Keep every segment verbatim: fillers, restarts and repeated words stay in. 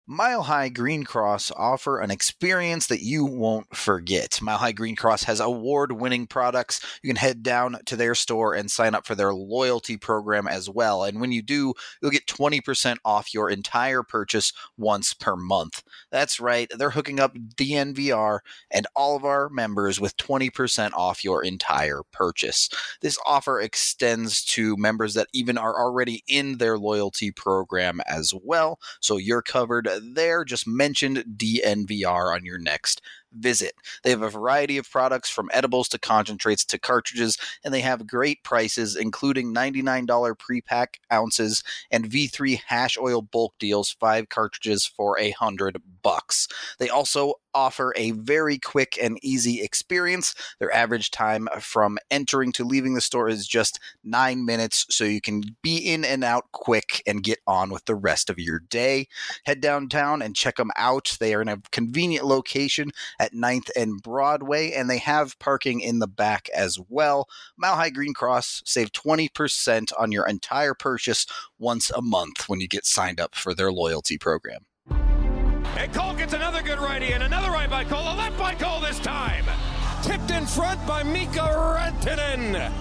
Mile High Green Cross offer an experience that you won't forget. Mile High Green Cross has award-winning products. You can head down to their store and sign up for their loyalty program as well. And when you do, you'll get twenty percent off your entire purchase once per month. That's right, they're hooking up D N V R and all of our members with twenty percent off your entire purchase. This offer extends to members that even are already in their loyalty program as well, so you're covered there. Just mention D N V R on your next visit. They have a variety of products from edibles to concentrates to cartridges, and they have great prices, including ninety-nine dollars pre-pack ounces and V three hash oil bulk deals, five cartridges for a hundred bucks. They also offer a very quick and easy experience. Their average time from entering to leaving the store is just nine minutes, so you can be in and out quick and get on with the rest of your day. Head downtown and check them out. They are in a convenient location at ninth and Broadway, and they have parking in the back as well. Mile High Green Cross, save twenty percent on your entire purchase once a month when you get signed up for their loyalty program. And Cole gets another good righty and another right by Cole, a left by Cole this time. Tipped in front by Mika Rantanen.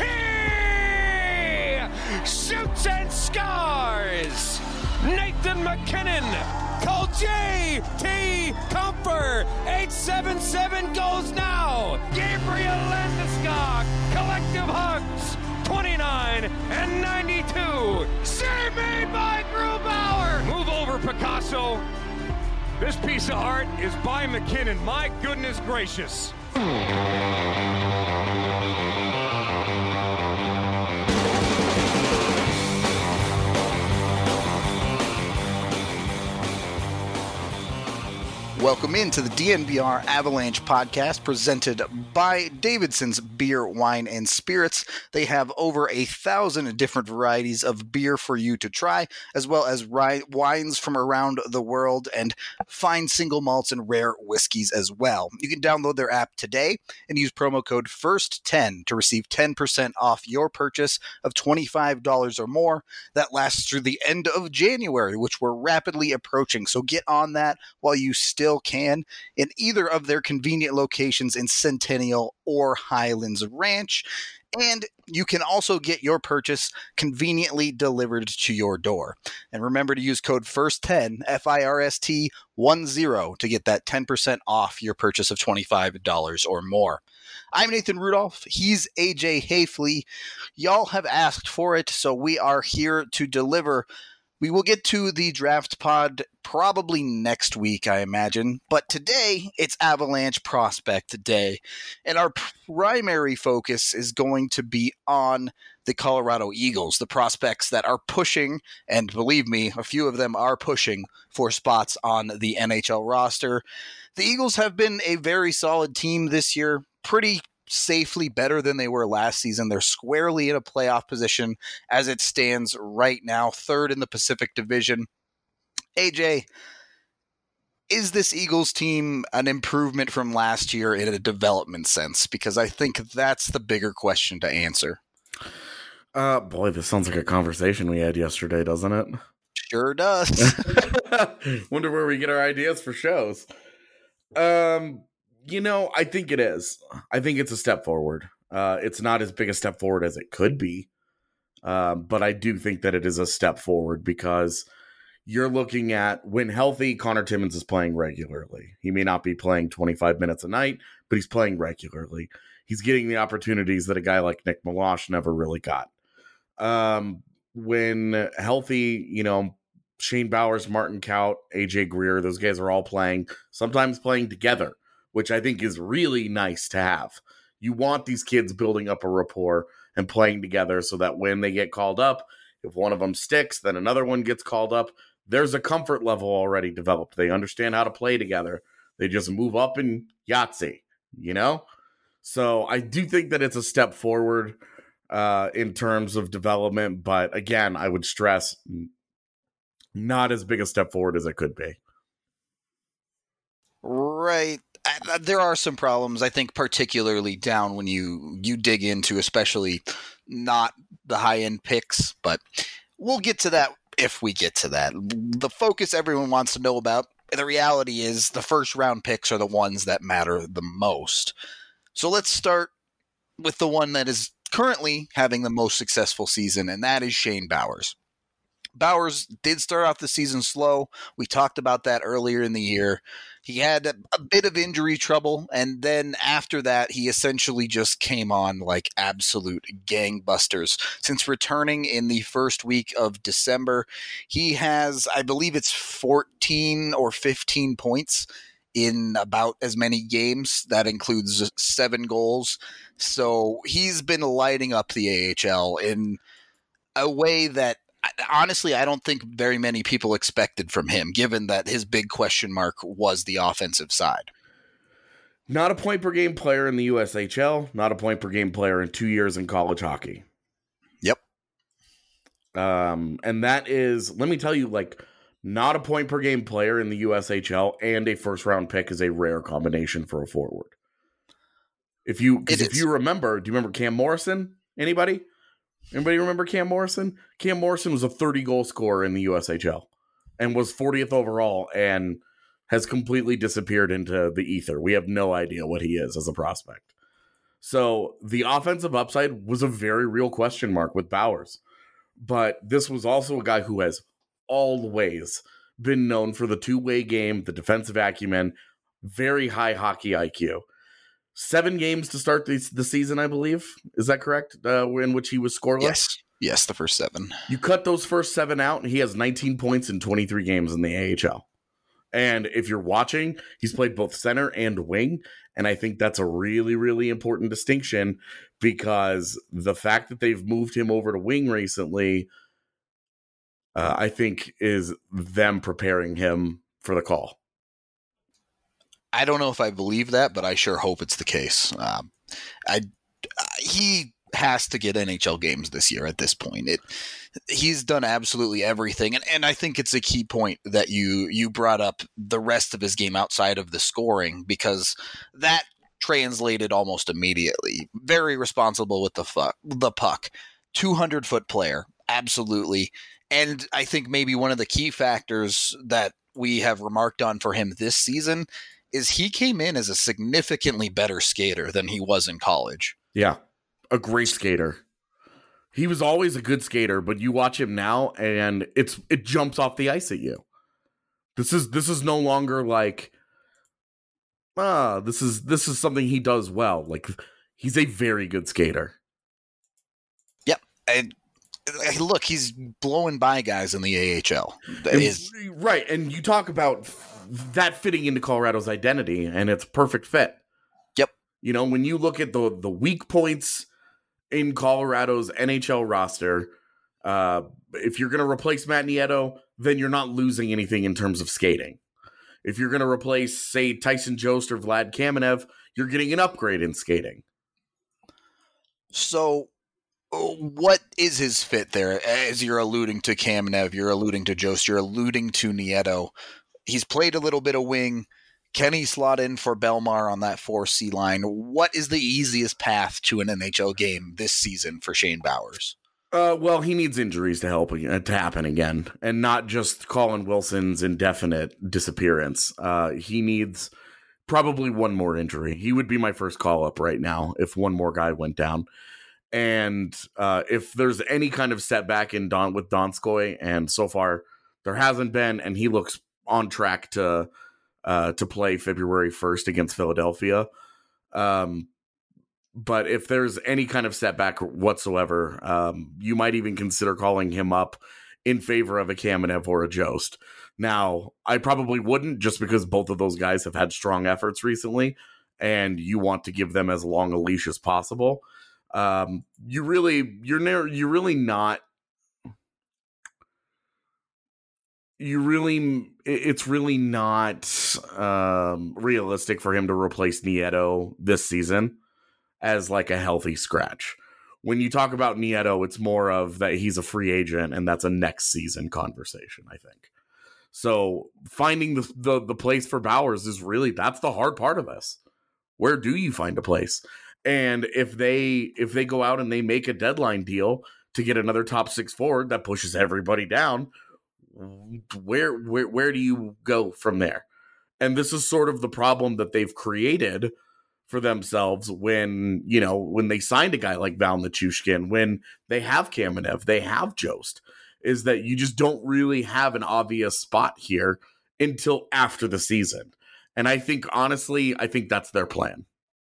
He shoots and scores. Nathan McKinnon. Call J T Comfort. eight seven seven goes now. Gabriel Landeskog. Collective hugs. twenty-nine and ninety-two. Save me by Grubauer. Move over, Picasso. This piece of art is by McKinnon. My goodness gracious. Welcome into the D N V R Avalanche podcast presented by Davidson's Beer, Wine, and Spirits. They have over a thousand different varieties of beer for you to try, as well as ri- wines from around the world and fine single malts and rare whiskeys as well. You can download their app today and use promo code first ten to receive ten percent off your purchase of twenty-five dollars or more. That lasts through the end of January, which we're rapidly approaching. So get on that while you still can in either of their convenient locations in Centennial or Highlands Ranch. And you can also get your purchase conveniently delivered to your door. And remember to use code first ten, F I R S T ten, to get that ten percent off your purchase of twenty-five dollars or more. I'm Nathan Rudolph. He's A J Hayfley. Y'all have asked for it, so we are here to deliver. We will get to the draft pod probably next week, I imagine. But today, it's Avalanche Prospect Day. And our primary focus is going to be on the Colorado Eagles, the prospects that are pushing, and believe me, a few of them are pushing for spots on the N H L roster. The Eagles have been a very solid team this year, pretty safely better than they were last season. They're squarely in a playoff position as it stands right now, third in the Pacific Division. A J, is this Eagles team an improvement from last year in a development sense? Because I think that's the bigger question to answer. Uh, boy, this sounds like a conversation we had yesterday, doesn't it? Sure does. Wonder where we get our ideas for shows. Um, you know, I think it is. I think it's a step forward. Uh, it's not as big a step forward as it could be. Um, but I do think that it is a step forward because you're looking at, when healthy, Connor Timmins is playing regularly. He may not be playing twenty-five minutes a night, but he's playing regularly. He's getting the opportunities that a guy like Nick Milosh never really got. Um, when healthy, you know, Shane Bowers, Martin Kaut, A J Greer, those guys are all playing, sometimes playing together, which I think is really nice to have. You want these kids building up a rapport and playing together so that when they get called up, if one of them sticks, then another one gets called up. There's a comfort level already developed. They understand how to play together. They just move up in Yahtzee, you know? So I do think that it's a step forward uh, in terms of development. But again, I would stress not as big a step forward as it could be. Right. I, there are some problems, I think, particularly down when you, you dig into, especially not the high-end picks, but we'll get to that if we get to that. The focus everyone wants to know about, the reality is the first round picks are the ones that matter the most. So let's start with the one that is currently having the most successful season, and that is Shane Bowers. Bowers did start off the season slow. We talked about that earlier in the year. He had a, a bit of injury trouble, and then after that, he essentially just came on like absolute gangbusters. Since returning in the first week of December, he has, I believe it's fourteen or fifteen points in about as many games. That includes seven goals. So he's been lighting up the A H L in a way that honestly, I don't think very many people expected from him, given that his big question mark was the offensive side. Not a point per game player in the U S H L, not a point per game player in two years in college hockey. Yep. Um, and that is, let me tell you, like, not a point per game player in the U S H L and a first round pick is a rare combination for a forward. If you, because if you remember, do you remember Cam Morrison? Anybody? Anybody remember Cam Morrison? Cam Morrison was a thirty goal scorer in the U S H L and was fortieth overall and has completely disappeared into the ether. We have no idea what he is as a prospect. So the offensive upside was a very real question mark with Bowers. But this was also a guy who has always been known for the two-way game, the defensive acumen, very high hockey I Q. Seven games to start the, the season, I believe. Is that correct? Uh, in which he was scoreless? Yes. Yes, the first seven. You cut those first seven out, and he has nineteen points in twenty-three games in the A H L. And if you're watching, he's played both center and wing. And I think that's a really, really important distinction because the fact that they've moved him over to wing recently, uh, I think, is them preparing him for the call. I don't know if I believe that, but I sure hope it's the case. Um, I he has to get N H L games this year at this point. It he's done absolutely everything, and and I think it's a key point that you you brought up the rest of his game outside of the scoring, because that translated almost immediately. Very responsible with the fuck the puck, two hundred foot player, absolutely, and I think maybe one of the key factors that we have remarked on for him this season is he came in as a significantly better skater than he was in college. Yeah, a great skater. He was always a good skater, but you watch him now and it's it jumps off the ice at you. This is this is no longer like, ah, this is this is something he does well. Like, he's a very good skater. Yep. And look, he's blowing by guys in the A H L. That and, is right, and you talk about that fitting into Colorado's identity, and it's a perfect fit. Yep. You know, when you look at the the weak points in Colorado's N H L roster, uh, if you're going to replace Matt Nieto, then you're not losing anything in terms of skating. If you're going to replace, say, Tyson Jost or Vlad Kamenev, you're getting an upgrade in skating. So what is his fit there? As you're alluding to Kamenev, you're alluding to Jost, you're alluding to Nieto. He's played a little bit of wing. Can he slot in for Belmar on that four C line? What is the easiest path to an N H L game this season for Shane Bowers? Uh, well, he needs injuries to help uh, to happen again, and not just Colin Wilson's indefinite disappearance. Uh, he needs probably one more injury. He would be my first call up right now if one more guy went down. And uh, if there's any kind of setback in Don with Donskoy, and so far there hasn't been, and he looks on track to uh, to play February first against Philadelphia. Um, but if there's any kind of setback whatsoever, um, you might even consider calling him up in favor of a Kamenev or a Jost. Now, I probably wouldn't, just because both of those guys have had strong efforts recently, and you want to give them as long a leash as possible. Um, you really, you're near, you're really not, you really, it's really not um, realistic for him to replace Nieto this season as like a healthy scratch. When you talk about Nieto, it's more of that he's a free agent and that's a next season conversation, I think. So finding the, the, the place for Bowers is really, that's the hard part of this. Where do you find a place? And if they if they go out and they make a deadline deal to get another top six forward that pushes everybody down, where where where do you go from there? And this is sort of the problem that they've created for themselves when, you know, when they signed a guy like Val Nichushkin, when they have Kamenev, they have Jost, is that you just don't really have an obvious spot here until after the season. And I think, honestly, I think that's their plan.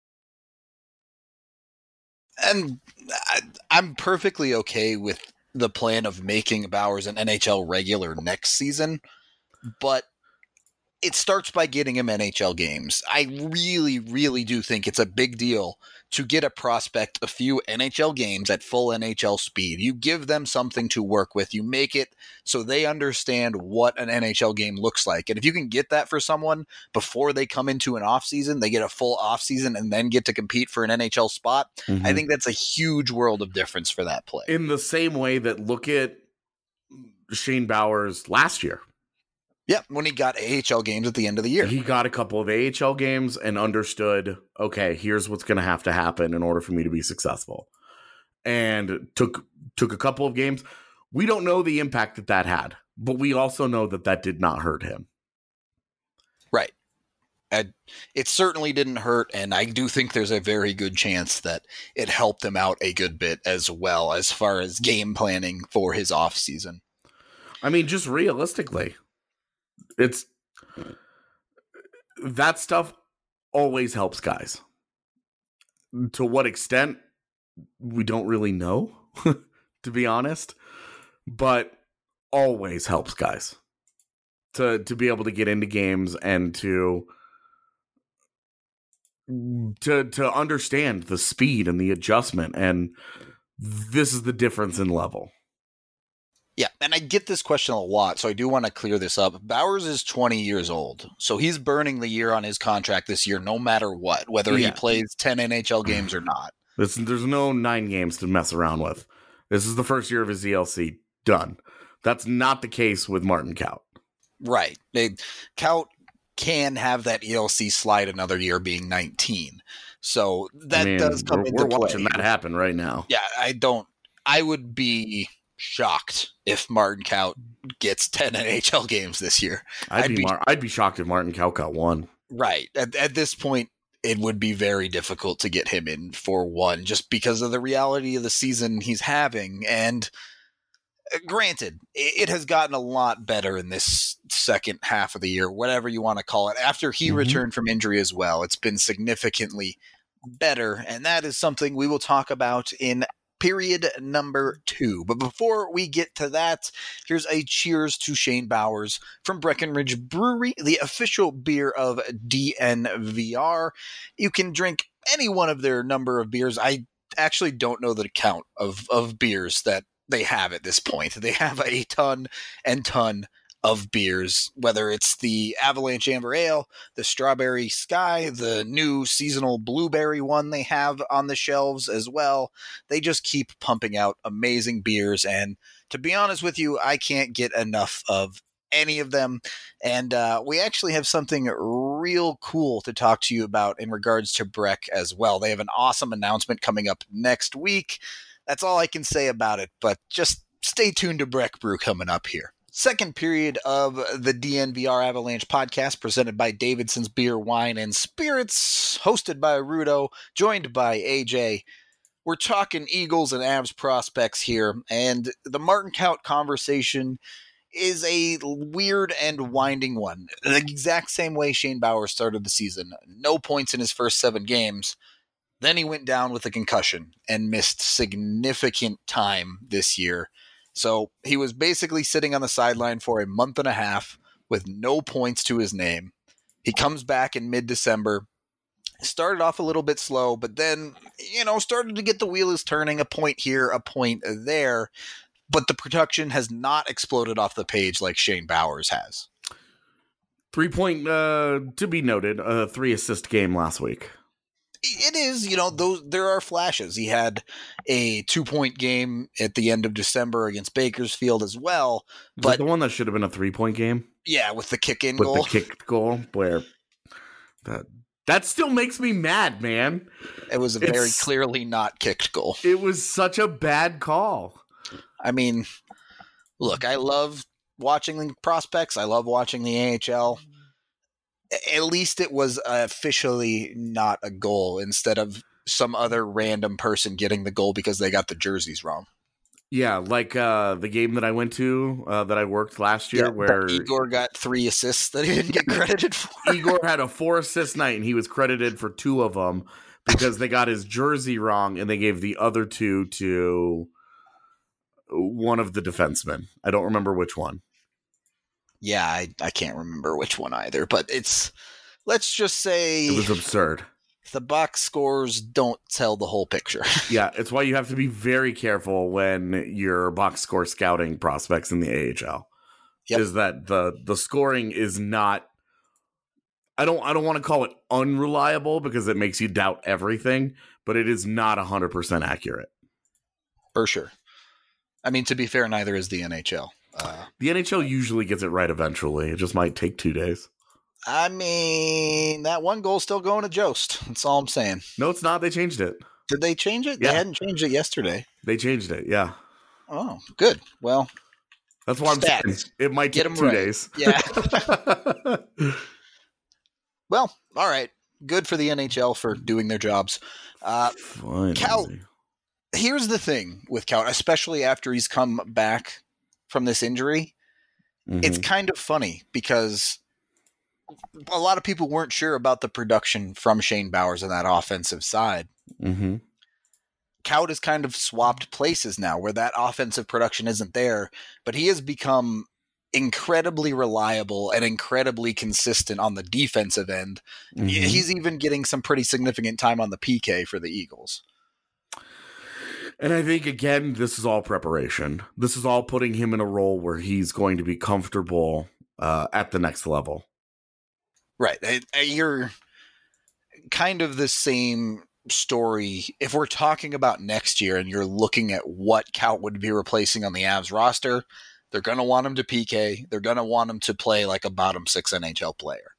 And I, I'm perfectly okay with the plan of making Bowers an N H L regular next season, but it starts by getting him N H L games. I really, really do think it's a big deal to get a prospect a few N H L games at full N H L speed. You give them something to work with. You make it so they understand what an N H L game looks like. And if you can get that for someone before they come into an offseason, they get a full offseason and then get to compete for an N H L spot, mm-hmm. I think that's a huge world of difference for that play. In the same way that look at Shane Bowers last year. Yeah, when he got A H L games at the end of the year. He got a couple of A H L games and understood, okay, here's what's going to have to happen in order for me to be successful. And took took a couple of games. We don't know the impact that that had, but we also know that that did not hurt him. Right. And it certainly didn't hurt, and I do think there's a very good chance that it helped him out a good bit as well as far as game planning for his offseason. I mean, just realistically, it's that stuff always helps guys. To what extent, we don't really know, to be honest, but always helps guys to to be able to get into games and to to to understand the speed and the adjustment, and this is the difference in level. Yeah, and I get this question a lot, so I do want to clear this up. Bowers is twenty years old, so he's burning the year on his contract this year no matter what, whether Yeah. he plays ten N H L games or not. This, there's no nine games to mess around with. This is the first year of his E L C. Done. That's not the case with Martin Kaut. Right. They, Kaut can have that E L C slide another year being nineteen. So that I mean, does come we're, into we're play. watching that happen right now. Yeah, I don't – I would be shocked if Martin Kaut gets ten N H L games this year. I'd, I'd be, be- Mar- I'd be shocked if Martin Kaut got one. Right. At, at this point, it would be very difficult to get him in for one just because of the reality of the season he's having. And uh, granted, it, it has gotten a lot better in this second half of the year, whatever you want to call it. After he Mhm. returned from injury as well, it's been significantly better. And that is something we will talk about in period number two. But before we get to that, here's a cheers to Shane Bowers from Breckenridge Brewery, the official beer of D N V R. You can drink any one of their number of beers. I actually don't know the count of, of beers that they have at this point. They have a ton and ton of beers, whether it's the Avalanche Amber Ale, the Strawberry Sky, the new seasonal blueberry one they have on the shelves as well. They just keep pumping out amazing beers, and to be honest with you, I can't get enough of any of them. And uh, we actually have something real cool to talk to you about in regards to Breck as well. They have an awesome announcement coming up next week. That's all I can say about it, but just stay tuned to Breck Brew coming up here. Second period of the D N V R Avalanche podcast, presented by Davidson's Beer, Wine, and Spirits, hosted by Rudo, joined by A J. We're talking Eagles and Avs prospects here, and the Martin Kaut conversation is a weird and winding one. The exact same way Shane Bowers started the season. No points in his first seven games. Then he went down with a concussion and missed significant time this year. So he was basically sitting on the sideline for a month and a half with no points to his name. He comes back in mid-December, started off a little bit slow, but then, you know, started to get the wheels turning, a point here, a point there. But the production has not exploded off the page like Shane Bowers has. Three point, uh, to be noted, a three assist game last week. It is, you know, those there are flashes. He had a two-point game at the end of December against Bakersfield as well. Is But that the one that should have been a three-point game? yeah, with the kick-in With goal. the kicked goal, where that that still makes me mad, man. It was a very It's- clearly not kicked goal. It was such a bad call. I mean, look, I love watching the prospects. I love watching the A H L. At least it was officially not a goal instead of some other random person getting the goal because they got the jerseys wrong. Yeah, like uh, the game that I went to uh, that I worked last year, yeah, where Igor got three assists that he didn't get credited for. Igor had a four assist night, and he was credited for two of them because they got his jersey wrong, and they gave the other two to one of the defensemen. I don't remember which one. Yeah, I, I can't remember which one either, but it's, let's just say... It was absurd. The box scores don't tell the whole picture. Yeah, it's why you have to be very careful when you're box score scouting prospects in the A H L. Yep. Is that the the scoring is not, I don't I don't want to call it unreliable because it makes you doubt everything, but it is not one hundred percent accurate. For sure. I mean, to be fair, neither is the N H L. Uh, the N H L usually gets it right eventually. It just might take two days. I mean, that one goal's still going to Jost. That's all I'm saying. No, it's not. They changed it. Did they change it? Yeah. They hadn't changed it yesterday. They changed it, yeah. Oh, good. Well, that's why I'm stats. saying it might take two right. days. Yeah. Well, all right. Good for the N H L for doing their jobs. Uh, Cal, here's the thing with Cal, especially after he's come back from this injury. Mm-hmm. It's kind of funny because a lot of people weren't sure about the production from Shane Bowers on that offensive side. Mm-hmm. Kaut has kind of swapped places now where that offensive production isn't there, but he has become incredibly reliable and incredibly consistent on the defensive end. Mm-hmm. He's even getting some pretty significant time on the P K for the Eagles. And I think, again, this is all preparation. This is all putting him in a role where he's going to be comfortable uh, at the next level. Right. You're kind of the same story. If we're talking about next year and you're looking at what Kaut would be replacing on the Avs roster, they're going to want him to P K. They're going to want him to play like a bottom six N H L player.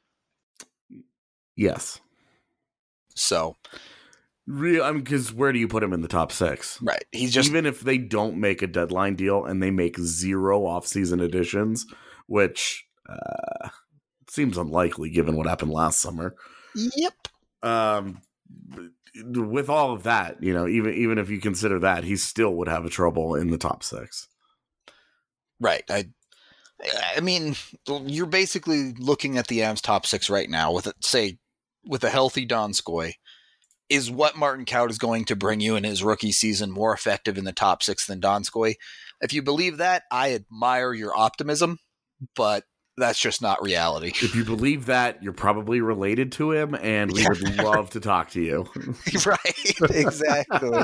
Yes. So, real, I mean, because where do you put him in the top six? Right. He's just, even if they don't make a deadline deal and they make zero offseason additions, which uh, seems unlikely given what happened last summer. Yep. Um, with all of that, you know, even even if you consider that, he still would have a trouble in the top six. Right. I I mean, you're basically looking at the Avs top six right now with, say, with a healthy Donskoy. Is what Martin Kaut is going to bring you in his rookie season more effective in the top six than Donskoy? If you believe that, I admire your optimism, but that's just not reality. If you believe that, you're probably related to him, and we yeah. would love to talk to you. Right, exactly.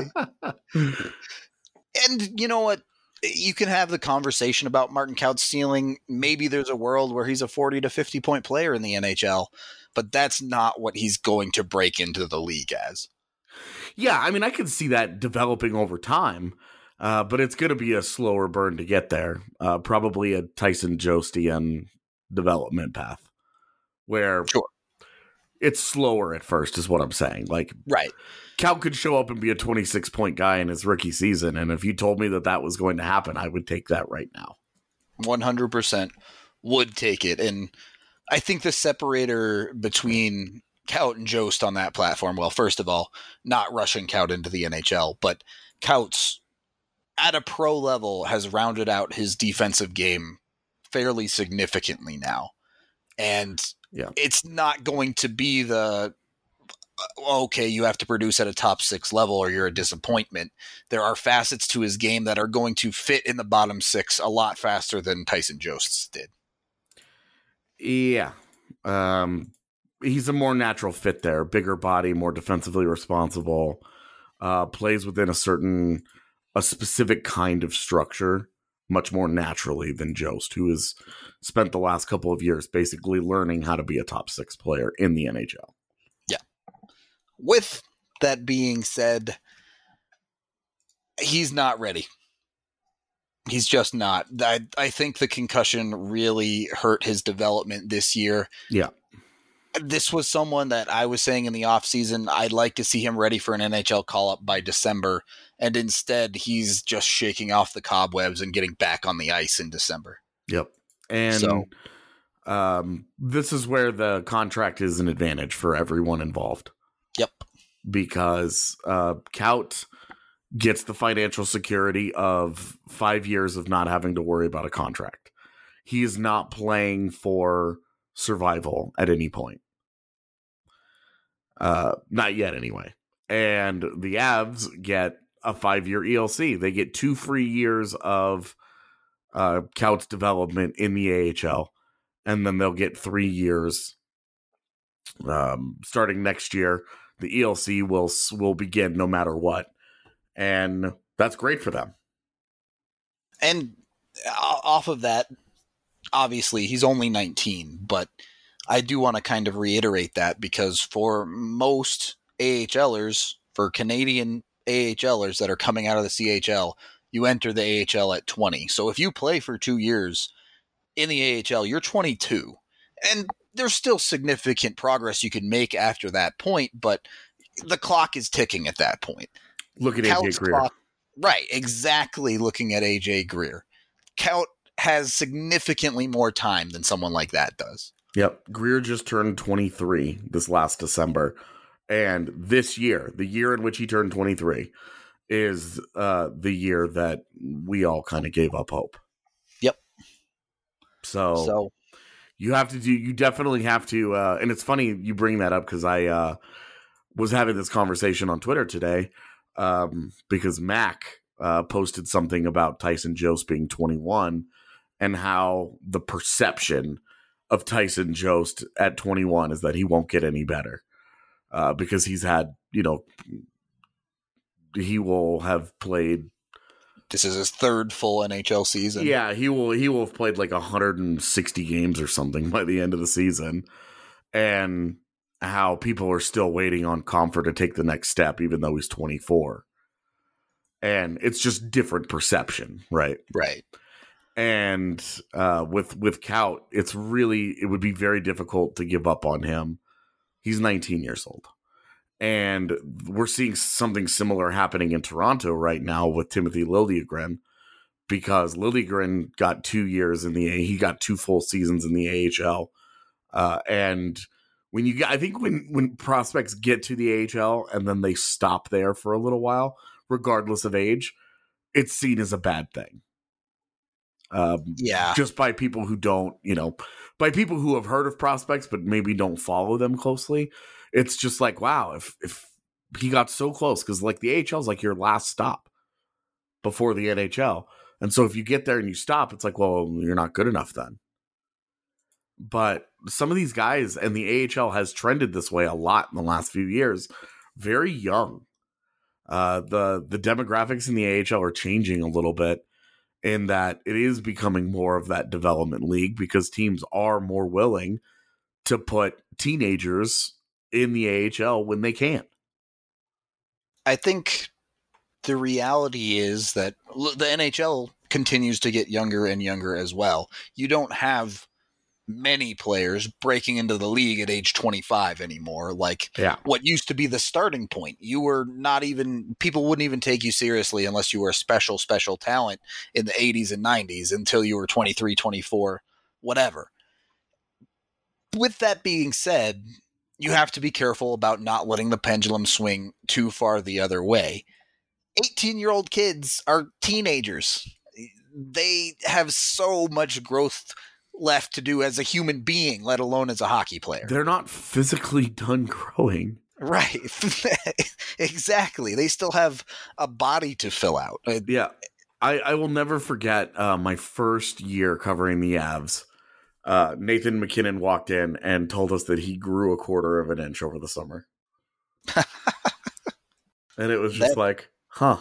And you know what? You can have the conversation about Martin Kaut's ceiling. Maybe there's a world where he's a forty to fifty point player in the N H L, but that's not what he's going to break into the league as. Yeah, I mean, I can see that developing over time, uh, but it's going to be a slower burn to get there. Uh, probably a Tyson Jostian development path where sure. it's slower at first is what I'm saying. Like, right. Kaut could show up and be a twenty-six point guy in his rookie season. And if you told me that that was going to happen, I would take that right now. one hundred percent would take it. And I think the separator between Kaut and Jost on that platform, well, first of all, not rushing Kaut into the N H L, but Kaut's at a pro level has rounded out his defensive game fairly significantly now. And yeah. it's not going to be the, okay, you have to produce at a top six level or you're a disappointment. There are facets to his game that are going to fit in the bottom six a lot faster than Tyson Jost's did. Yeah. Um, he's a more natural fit there. Bigger body, more defensively responsible, uh, plays within a certain, a specific kind of structure much more naturally than Jost, who has spent the last couple of years basically learning how to be a top six player in the N H L. Yeah. With that being said, he's not ready. He's just not. I, I think the concussion really hurt his development this year. Yeah. this was someone that I was saying in the offseason, I'd like to see him ready for an N H L call-up by December, and instead he's just shaking off the cobwebs and getting back on the ice in December. Yep. And So- um, this is where the contract is an advantage for everyone involved. Yep. Because uh, Kaut gets the financial security of five years of not having to worry about a contract. He is not playing for survival at any point. Uh, not yet, anyway. And the Avs get a five-year E L C. They get two free years of uh, Kaut's development in the A H L, and then they'll get three years um, starting next year. The E L C will will begin no matter what, and that's great for them. And off of that, obviously he's only nineteen, but I do want to kind of reiterate that because for most AHLers, for Canadian AHLers that are coming out of the C H L, you enter the A H L at twenty. So if you play for two years in the A H L, you're twenty-two. And there's still significant progress you can make after that point, but the clock is ticking at that point. Look at A J Greer. Clock, right, exactly looking at A J Greer. Kaut has significantly more time than someone like that does. Yep. Greer just turned twenty-three this last December. And this year, the year in which he turned twenty-three, is uh, the year that we all kind of gave up hope. Yep. So, So you have to do, you definitely have to, uh, and it's funny you bring that up because I uh, was having this conversation on Twitter today um, because Mac uh, posted something about Tyson Jost being twenty-one and how the perception of Tyson Jost at twenty-one is that he won't get any better uh, because he's had, you know, he will have played. this is his third full N H L season. Yeah, he will. He will have played like one hundred sixty games or something by the end of the season, and how people are still waiting on Comfort to take the next step, even though he's twenty-four. And it's just different perception, right? Right. And uh, with with Kaut, it's really it would be very difficult to give up on him. He's nineteen years old. And we're seeing something similar happening in Toronto right now with Timothy Liljegren, because Liljegren got two years in the A. He got two full seasons in the A H L, uh, and when you get, I think when when prospects get to the A H L and then they stop there for a little while, regardless of age, it's seen as a bad thing. Um, Yeah. just by people who don't, you know, by people who have heard of prospects but maybe don't follow them closely. It's just like, wow, if if he got so close, because like the A H L is like your last stop before the N H L. And so if you get there and you stop, it's like, well, you're not good enough then. But some of these guys, and the A H L has trended this way a lot in the last few years, very young. Uh, the the demographics in the A H L are changing a little bit in that it is becoming more of that development league because teams are more willing to put teenagers in the A H L when they can. I think the reality is that the N H L continues to get younger and younger as well. You don't have many players breaking into the league at age twenty-five anymore. Like Yeah. what used to be the starting point. You were not even, people wouldn't even take you seriously unless you were a special, special talent in the eighties and nineties until you were twenty-three, twenty-four, whatever. With that being said, you have to be careful about not letting the pendulum swing too far the other way. eighteen-year-old kids are teenagers. They have so much growth left to do as a human being, let alone as a hockey player. They're not physically done growing. Right. Exactly. They still have a body to fill out. Yeah. I, I will never forget uh, my first year covering the Avs. Uh, Nathan McKinnon walked in and told us that he grew a quarter of an inch over the summer. And it was just That- like, huh.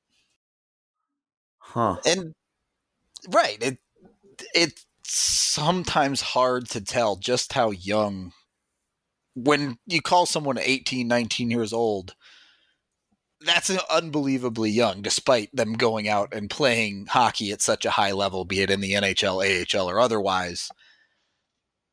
Huh. And right, it it's sometimes hard to tell just how young, when you call someone eighteen, nineteen years old, that's unbelievably young, despite them going out and playing hockey at such a high level, be it in the N H L, A H L, or otherwise.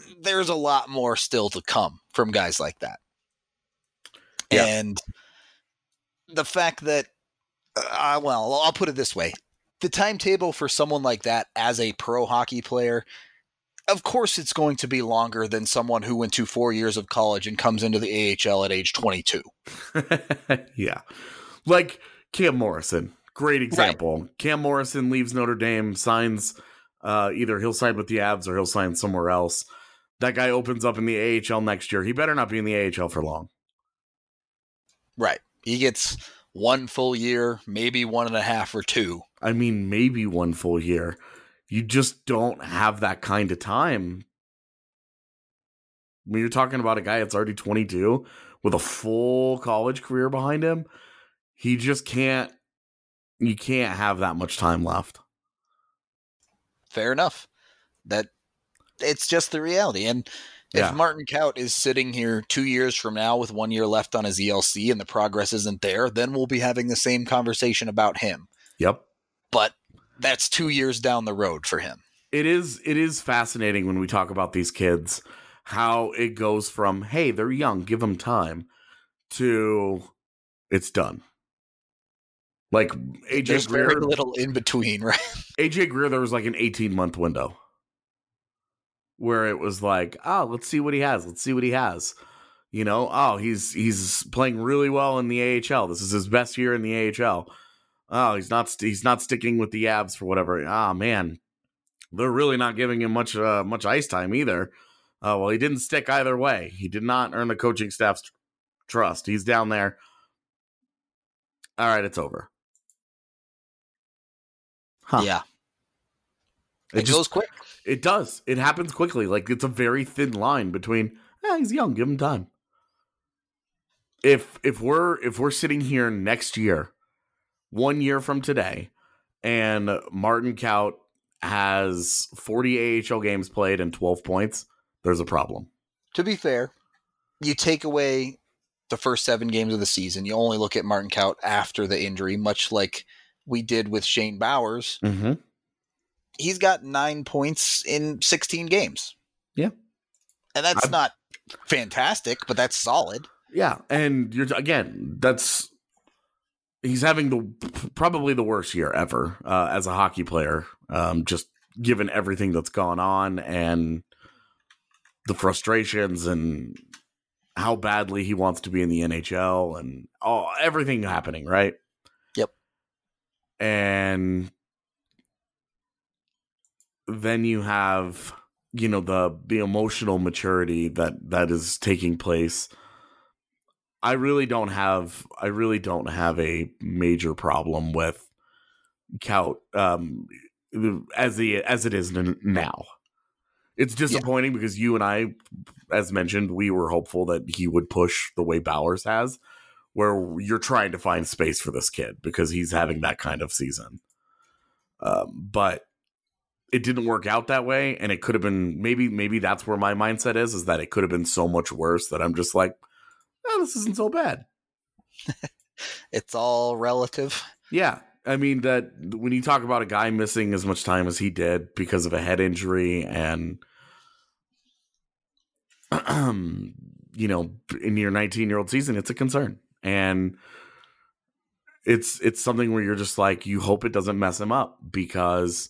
there's a lot more still to come from guys like that. Yeah. And the fact that, uh, well, I'll put it this way. The timetable for someone like that as a pro hockey player, of course it's going to be longer than someone who went to four years of college and comes into the A H L at age twenty-two. Yeah. Like Cam Morrison. Great example. Right. Cam Morrison leaves Notre Dame, signs, uh, either he'll sign with the Avs or he'll sign somewhere else. That guy opens up in the A H L next year. He better not be in the A H L for long. Right. He gets one full year, maybe one and a half or two. I mean, maybe one full year. You just don't have that kind of time. When you're talking about a guy that's already twenty-two with a full college career behind him, he just can't, you can't have that much time left. Fair enough. That it's just the reality. And if Yeah. Martin Kaut is sitting here two years from now with one year left on his E L C and the progress isn't there, then we'll be having the same conversation about him. Yep. But that's two years down the road for him. It is it is fascinating when we talk about these kids, how it goes from, hey, they're young, give them time, to it's done. Like A J There's Greer, very little in between, right? A J Greer, there was like an eighteen-month window where it was like, oh, let's see what he has. Let's see what he has. You know, oh, he's he's playing really well in the A H L. This is his best year in the A H L. Oh, he's not he's not sticking with the Avs for whatever. Ah, oh, man, they're really not giving him much uh, much ice time either. Uh, well, he didn't stick either way. He did not earn the coaching staff's tr- trust. He's down there. All right, it's over. Huh. Yeah. It, It just, goes quick. It does. It happens quickly. Like, it's a very thin line between, eh, he's young, give him time. If if we're if we're sitting here next year, one year from today, and Martin Kaut has forty A H L games played and twelve points, there's a problem. To be fair, you take away the first seven games of the season, you only look at Martin Kaut after the injury, much like we did with Shane Bowers. Mm-hmm. He's got nine points in sixteen games. Yeah. And that's I've, not fantastic, but that's solid. Yeah. And you're again, that's he's having the probably the worst year ever uh, as a hockey player, um, just given everything that's gone on and the frustrations and how badly he wants to be in the N H L and all everything happening, right? Yep. And then you have, you know, the the emotional maturity that that is taking place. I really don't have I really don't have a major problem with Kaut um, as the as it is n- now. It's disappointing yeah. because you and I, as mentioned, we were hopeful that he would push the way Bowers has, where you're trying to find space for this kid because he's having that kind of season. Um, but it didn't work out that way, and it could have been maybe maybe that's where my mindset is, is that it could have been so much worse that I'm just like, oh, this isn't so bad. It's all relative. Yeah. I mean, that when you talk about a guy missing as much time as he did because of a head injury and, you know, in your nineteen-year-old season, it's a concern. And it's it's something where you're just like, you hope it doesn't mess him up because,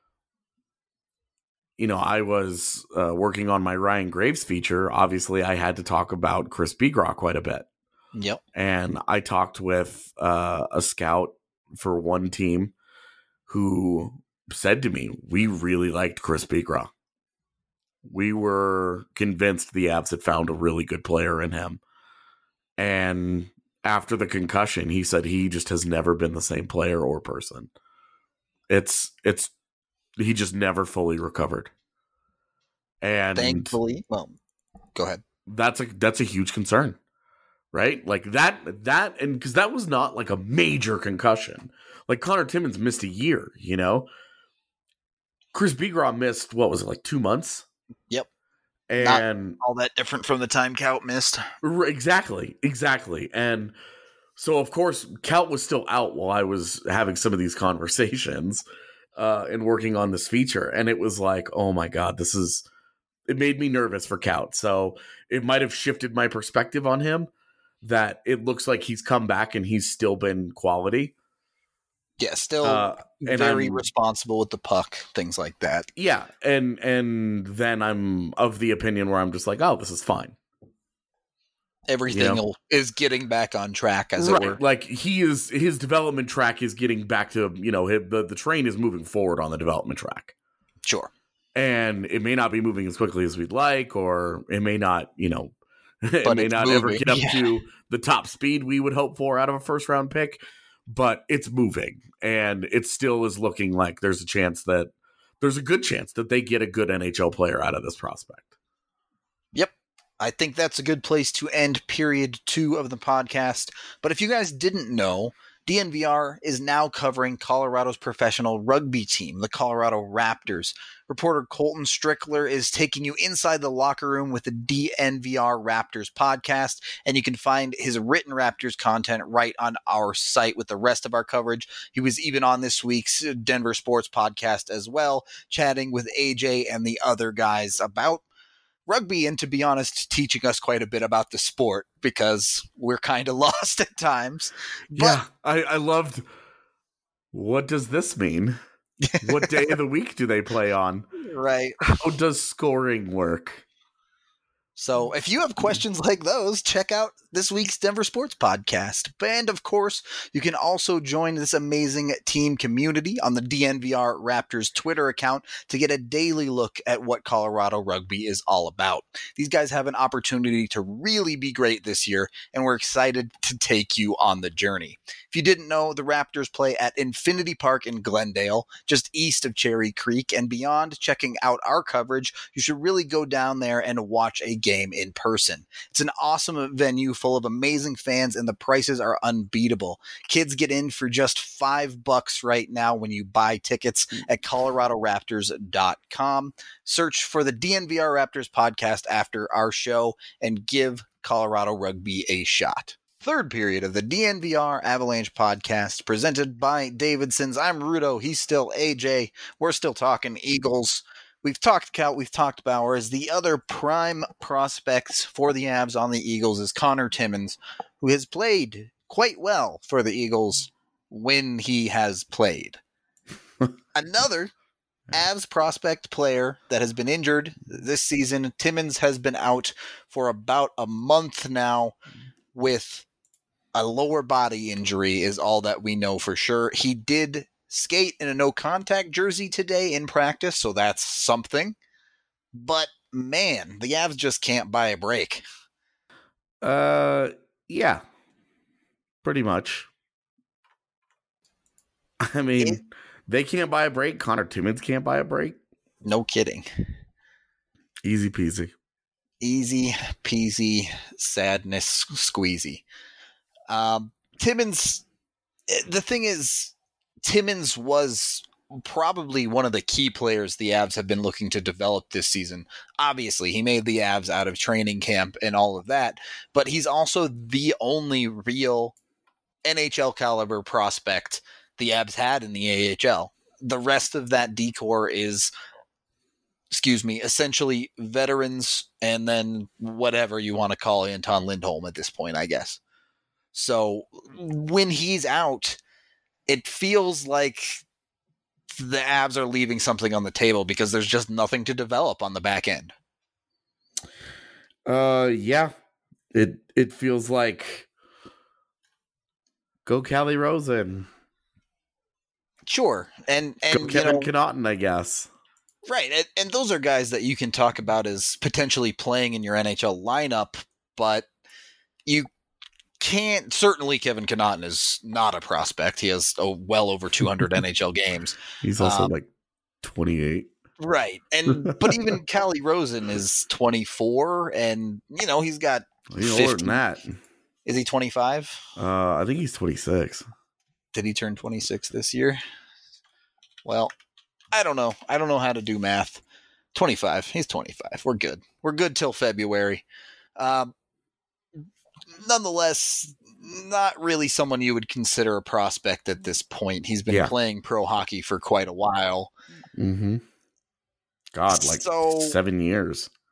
you know, I was uh, working on my Ryan Graves feature. Obviously, I had to talk about Chris Begraw quite a bit. Yep. And I talked with uh, a scout for one team who said to me, we really liked Chris Begraw. We were convinced the Avs had found a really good player in him. And after the concussion, he said he just has never been the same player or person. It's, it's, he just never fully recovered. And thankfully, well, go ahead. That's a, that's a huge concern. Right? Like that, that, and because that was not like a major concussion. Like Connor Timmins missed a year, you know? Chris Begraw missed, what was it, like two months? Yep. And not all that different from the time Kaut missed. Exactly. Exactly. And so, of course, Kaut was still out while I was having some of these conversations uh, and working on this feature. And it was like, oh my God, this is, it made me nervous for Kaut. So it might have shifted my perspective on him, that it looks like he's come back and he's still been quality. Yeah, still uh, very I'm, responsible with the puck, things like that. Yeah, and and then I'm of the opinion where I'm just like, oh, this is fine. Everything you know? is getting back on track, as right. it were. Like he is, his development track is getting back to, you know, his, the the train is moving forward on the development track. Sure. And it may not be moving as quickly as we'd like, or it may not, you know, it But may not moving. ever get up yeah. to the top speed we would hope for out of a first round pick. But it's moving, and it still is looking like there's a chance that there's a good chance that they get a good N H L player out of this prospect. Yep. I think that's a good place to end period two of the podcast. But if you guys didn't know, D N V R is now covering Colorado's professional rugby team, the Colorado Raptors. Reporter Colton Strickler is taking you inside the locker room with the D N V R Raptors podcast, and you can find his written Raptors content right on our site with the rest of our coverage. He was even on this week's Denver Sports podcast as well, chatting with A J and the other guys about rugby, and to be honest, teaching us quite a bit about the sport because we're kind of lost at times. But Yeah, I, I loved, what does this mean? What day of the week do they play on? right. How does scoring work? So if you have questions like those, check out this week's Denver Sports Podcast. And of course, you can also join this amazing team community on the D N V R Raptors Twitter account to get a daily look at what Colorado rugby is all about. These guys have an opportunity to really be great this year, and we're excited to take you on the journey. If you didn't know, the Raptors play at Infinity Park in Glendale, just east of Cherry Creek, and beyond checking out our coverage, you should really go down there and watch a game in person. It's an awesome venue full of amazing fans, and the prices are unbeatable. Kids get in for just five bucks right now when you buy tickets at colorado raptors dot com. Search for the D N V R Raptors podcast after our show and give Colorado rugby a shot. Third period of the D N V R Avalanche podcast presented by Davidson's. I'm Rudo. He's still A J. We're still talking Eagles. We've talked Kaut, we've talked Bowers. The other prime prospects for the Avs on the Eagles is Connor Timmins, who has played quite well for the Eagles when he has played. Another Avs prospect player that has been injured this season, Timmins has been out for about a month now with a lower body injury is all that we know for sure. He did skate in a no-contact jersey today in practice, so that's something. But, man, the Avs just can't buy a break. Uh, yeah, pretty much. I mean, it, they can't buy a break. Connor Timmins can't buy a break. No kidding. Easy peasy. Easy peasy, sadness squeezy. Um, Timmins, the thing is, Timmins was probably one of the key players the Avs have been looking to develop this season. Obviously, he made the Avs out of training camp and all of that, but he's also the only real N H L caliber prospect the Avs had in the A H L. The rest of that decor is, excuse me, essentially veterans and then whatever you want to call Anton Lindholm at this point, I guess. So when he's out, it feels like the Avs are leaving something on the table because there's just nothing to develop on the back end. Uh, yeah, it it feels like go Callie Rosen. Sure, and and go Kevin you know, Connaughton, I guess. Right, and, and those are guys that you can talk about as potentially playing in your N H L lineup, but you can't. Certainly, Kevin Connaughton is not a prospect. He has oh, well over two hundred N H L games. He's also um, like twenty-eight. Right, and but even Callie Rosen is twenty-four, and you know he's got. He's older than that. Is he twenty-five? Uh, I think he's twenty-six. Did he turn twenty-six this year? Well, I don't know. I don't know how to do math. twenty-five. He's twenty-five. We're good. We're good till February. Um, nonetheless, not really someone you would consider a prospect at this point. He's been yeah. playing pro hockey for quite a while. Mm-hmm. God, like so, seven years.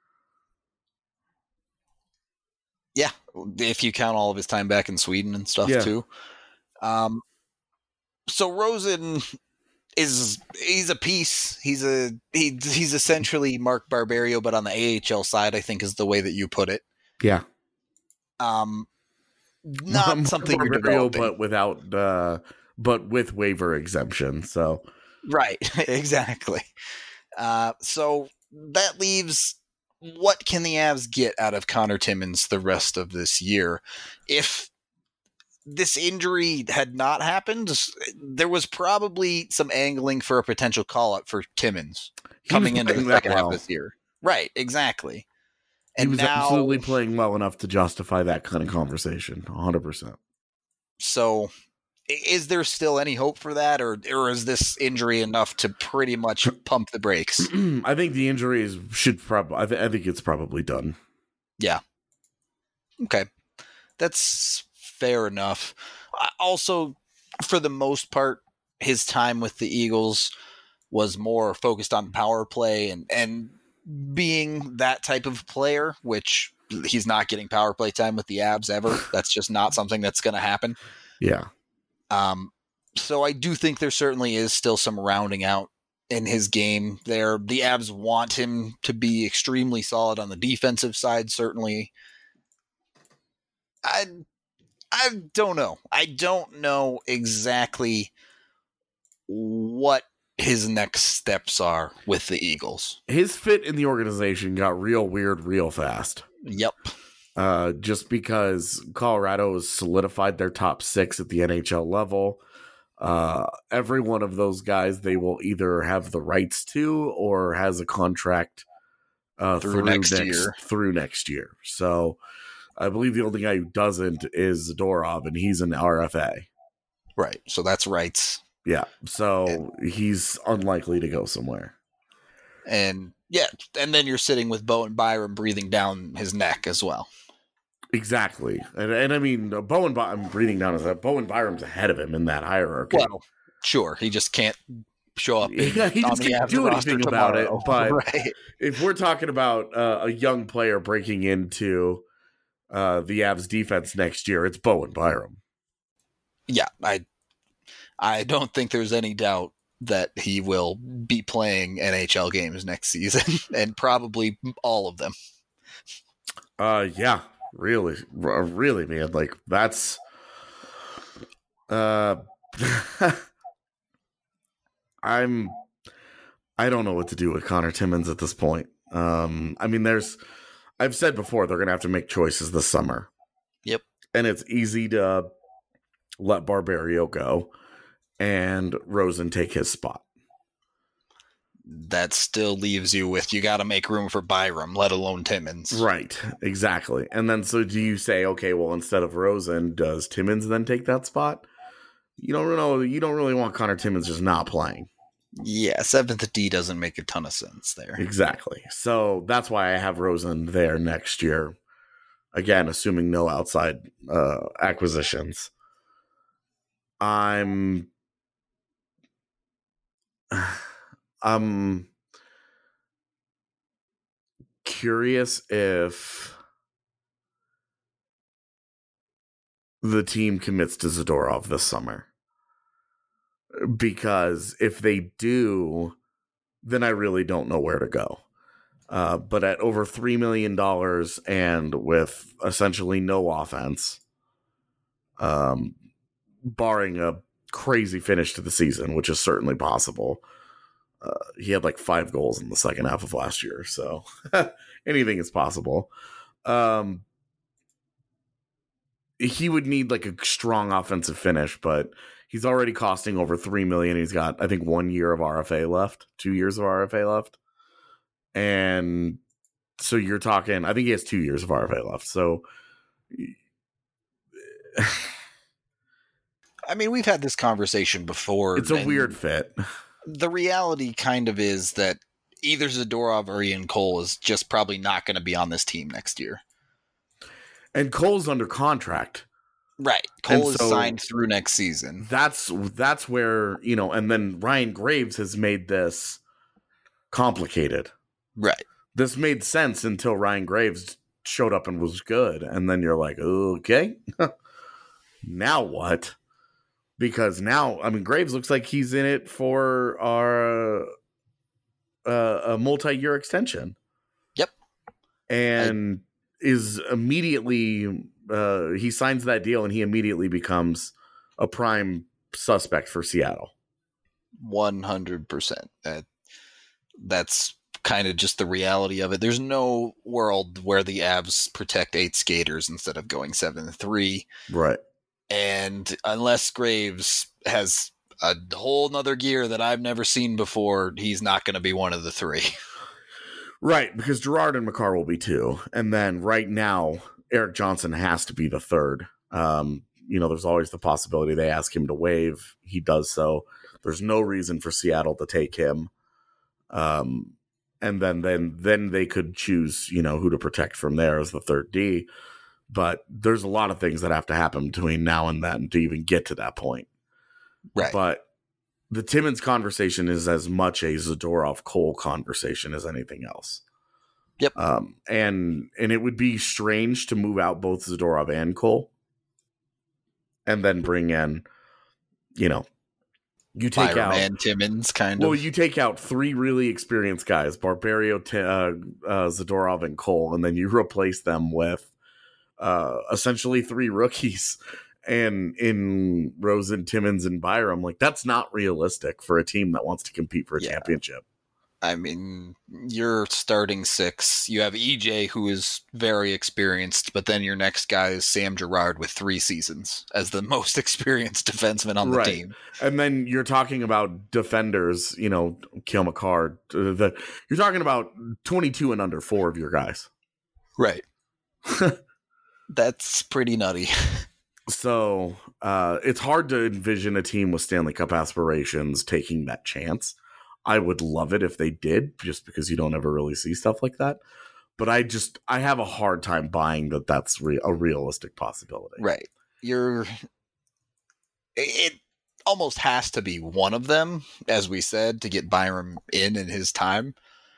if you count all of his time back in Sweden and stuff Yeah. too. Um, so Rosen is he's a piece. He's a he, he's essentially Mark Barberio, but on the A H L side, I think is the way that you put it. Yeah. Um, not Mark something you're Barberio, developing. but without, uh, but with waiver exemption. So Right, exactly. Uh, so that leaves, what can the Avs get out of Connor Timmins the rest of this year? If this injury had not happened, there was probably some angling for a potential call-up for Timmins coming into the playing that second well. half of this year. Right, exactly. he And was now, absolutely playing well enough to justify that kind of conversation. one hundred percent. so i- is there still any hope for that, or or is this injury enough to pretty much pump the brakes? I think the injuries should probably, I, th- I think it's probably done. Okay, that's fair enough. Uh, Also, for the most part, his time with the Eagles was more focused on power play and, and being that type of player, which he's not getting power play time with the Avs ever. That's just not something that's going to happen. Yeah. Um, so I do think there certainly is still some rounding out in his game there. The Avs want him to be extremely solid on the defensive side, certainly. I I don't know. I don't know exactly what his next steps are with the Eagles. His fit in the organization got real weird real fast. Yep. Uh, just because Colorado has solidified their top six at the N H L level. Uh, every one of those guys, they will either have the rights to or has a contract uh, Through through, next next, year. Through next year. So I believe the only guy who doesn't is Zadorov, and he's an R F A. Right. So that's rights. Yeah, so he's unlikely to go somewhere. And yeah, and then you're sitting with Bowen Byram breathing down his neck as well. Exactly, and and I mean Bowen. By- I'm breathing down his head. Bowen Byram's ahead of him in that hierarchy. Well, sure, he just can't show up. In, Yeah, he on just the can't Avs do roster anything about it, tomorrow. but- right. If we're talking about uh, a young player breaking into uh, the Avs defense next year, it's Bowen Byram. Yeah, I I don't think there's any doubt that he will be playing N H L games next season, and probably all of them. Uh, yeah, really, r- really, man. Like that's, uh, I'm, I don't know what to do with Connor Timmins at this point. Um, I mean, there's, I've said before they're gonna have to make choices this summer. Yep. And it's easy to let Barberio go and Rosen take his spot. That still leaves you with, you got to make room for Byram, let alone Timmins. Right, exactly. And then so do you say, okay, well, instead of Rosen, does Timmins then take that spot? You don't know. You don't really want Connor Timmins just not playing. Yeah, seventh D doesn't make a ton of sense there. Exactly. So that's why I have Rosen there next year. Again, assuming no outside uh, acquisitions. I'm I'm curious if the team commits to Zadorov this summer. Because if they do, then I really don't know where to go. Uh, but at over three million dollars and with essentially no offense, um, barring a crazy finish to the season, which is certainly possible. Uh, he had like five goals in the second half of last year, so anything is possible. Um, he would need like a strong offensive finish, but he's already costing over three million. He's got, I think, one year of R F A left, two years of R F A left, and so you're talking. I think he has two years of R F A left. So. I mean, we've had this conversation before. It's a and weird fit. The reality kind of is that either Zadorov or Ian Cole is just probably not going to be on this team next year. And Cole's under contract. Right. Cole And is so- signed through next season. That's that's where, you know, and then Ryan Graves has made this complicated. Right. This made sense until Ryan Graves showed up and was good. And then you're like, okay, now what? Because now, I mean, Graves looks like he's in it for our uh, a multi-year extension. Yep. And I, is immediately, uh, he signs that deal and he immediately becomes a prime suspect for Seattle. one hundred percent. That, that's kind of just the reality of it. There's no world where the Avs protect eight skaters instead of going seven three. Right. And unless Graves has a whole nother gear that I've never seen before, he's not going to be one of the three. Right, because Gerard and Makar will be two. And then right now, Erik Johnson has to be the third. Um, you know, there's always the possibility they ask him to waive. He does so. There's no reason for Seattle to take him. Um, and then, then, then they could choose, you know, who to protect from there as the third D. But there's a lot of things that have to happen between now and then to even get to that point. Right. But the Timmins conversation is as much a Zadorov-Cole conversation as anything else. Yep. Um, and and it would be strange to move out both Zadorov and Cole and then bring in, you know, you take Byram out and Timmins, kind well, of. you take out three really experienced guys, Barberio, uh, uh, Zadorov, and Cole, and then you replace them with uh, essentially three rookies. And in Rosen, Timmins, and Byram, like that's not realistic for a team that wants to compete for a yeah. championship. I mean, you're starting six. You have E J, who is very experienced, but then your next guy is Sam Girard with three seasons as the most experienced defenseman on the right. team. And then you're talking about defenders, you know, Cale Makar. The, you're talking about twenty-two and under four of your guys. Right. That's pretty nutty. So uh, it's hard to envision a team with Stanley Cup aspirations taking that chance. I would love it if they did, just because you don't ever really see stuff like that. But I just, I have a hard time buying that that's re- a realistic possibility. Right. You're, it almost has to be one of them, as we said, to get Byram in in his time.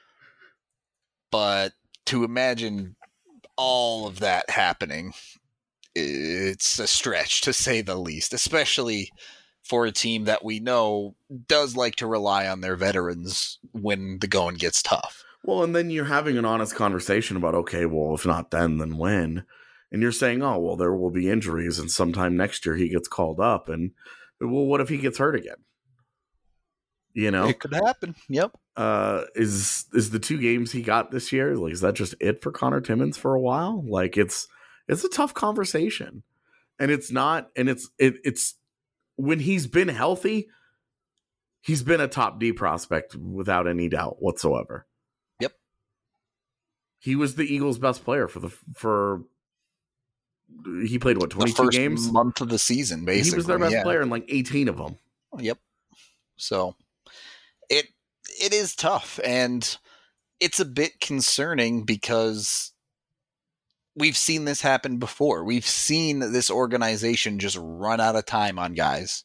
But to imagine all of that happening, it's a stretch, to say the least, especially for a team that we know does like to rely on their veterans when the going gets tough. Well, and then you're having an honest conversation about, okay, well, if not then, then when? And you're saying, oh, well, there will be injuries, and sometime next year he gets called up. And, well, what if he gets hurt again? You know? It could happen. Yep. Uh, is is the two games he got this year, like, is that just it for Connor Timmins for a while? Like, it's it's a tough conversation. And it's not, and it's it, it's, when he's been healthy, he's been a top D prospect without any doubt whatsoever. Yep. He was the Eagles' best player for the for. He played what twenty-two the first games, month of the season. Basically, he was their best yeah. player in like eighteen of them. Yep. So it it is tough, and it's a bit concerning because we've seen this happen before. We've seen this organization just run out of time on guys.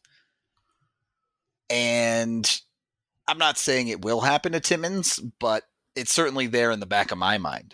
And I'm not saying it will happen to Timmins, but it's certainly there in the back of my mind.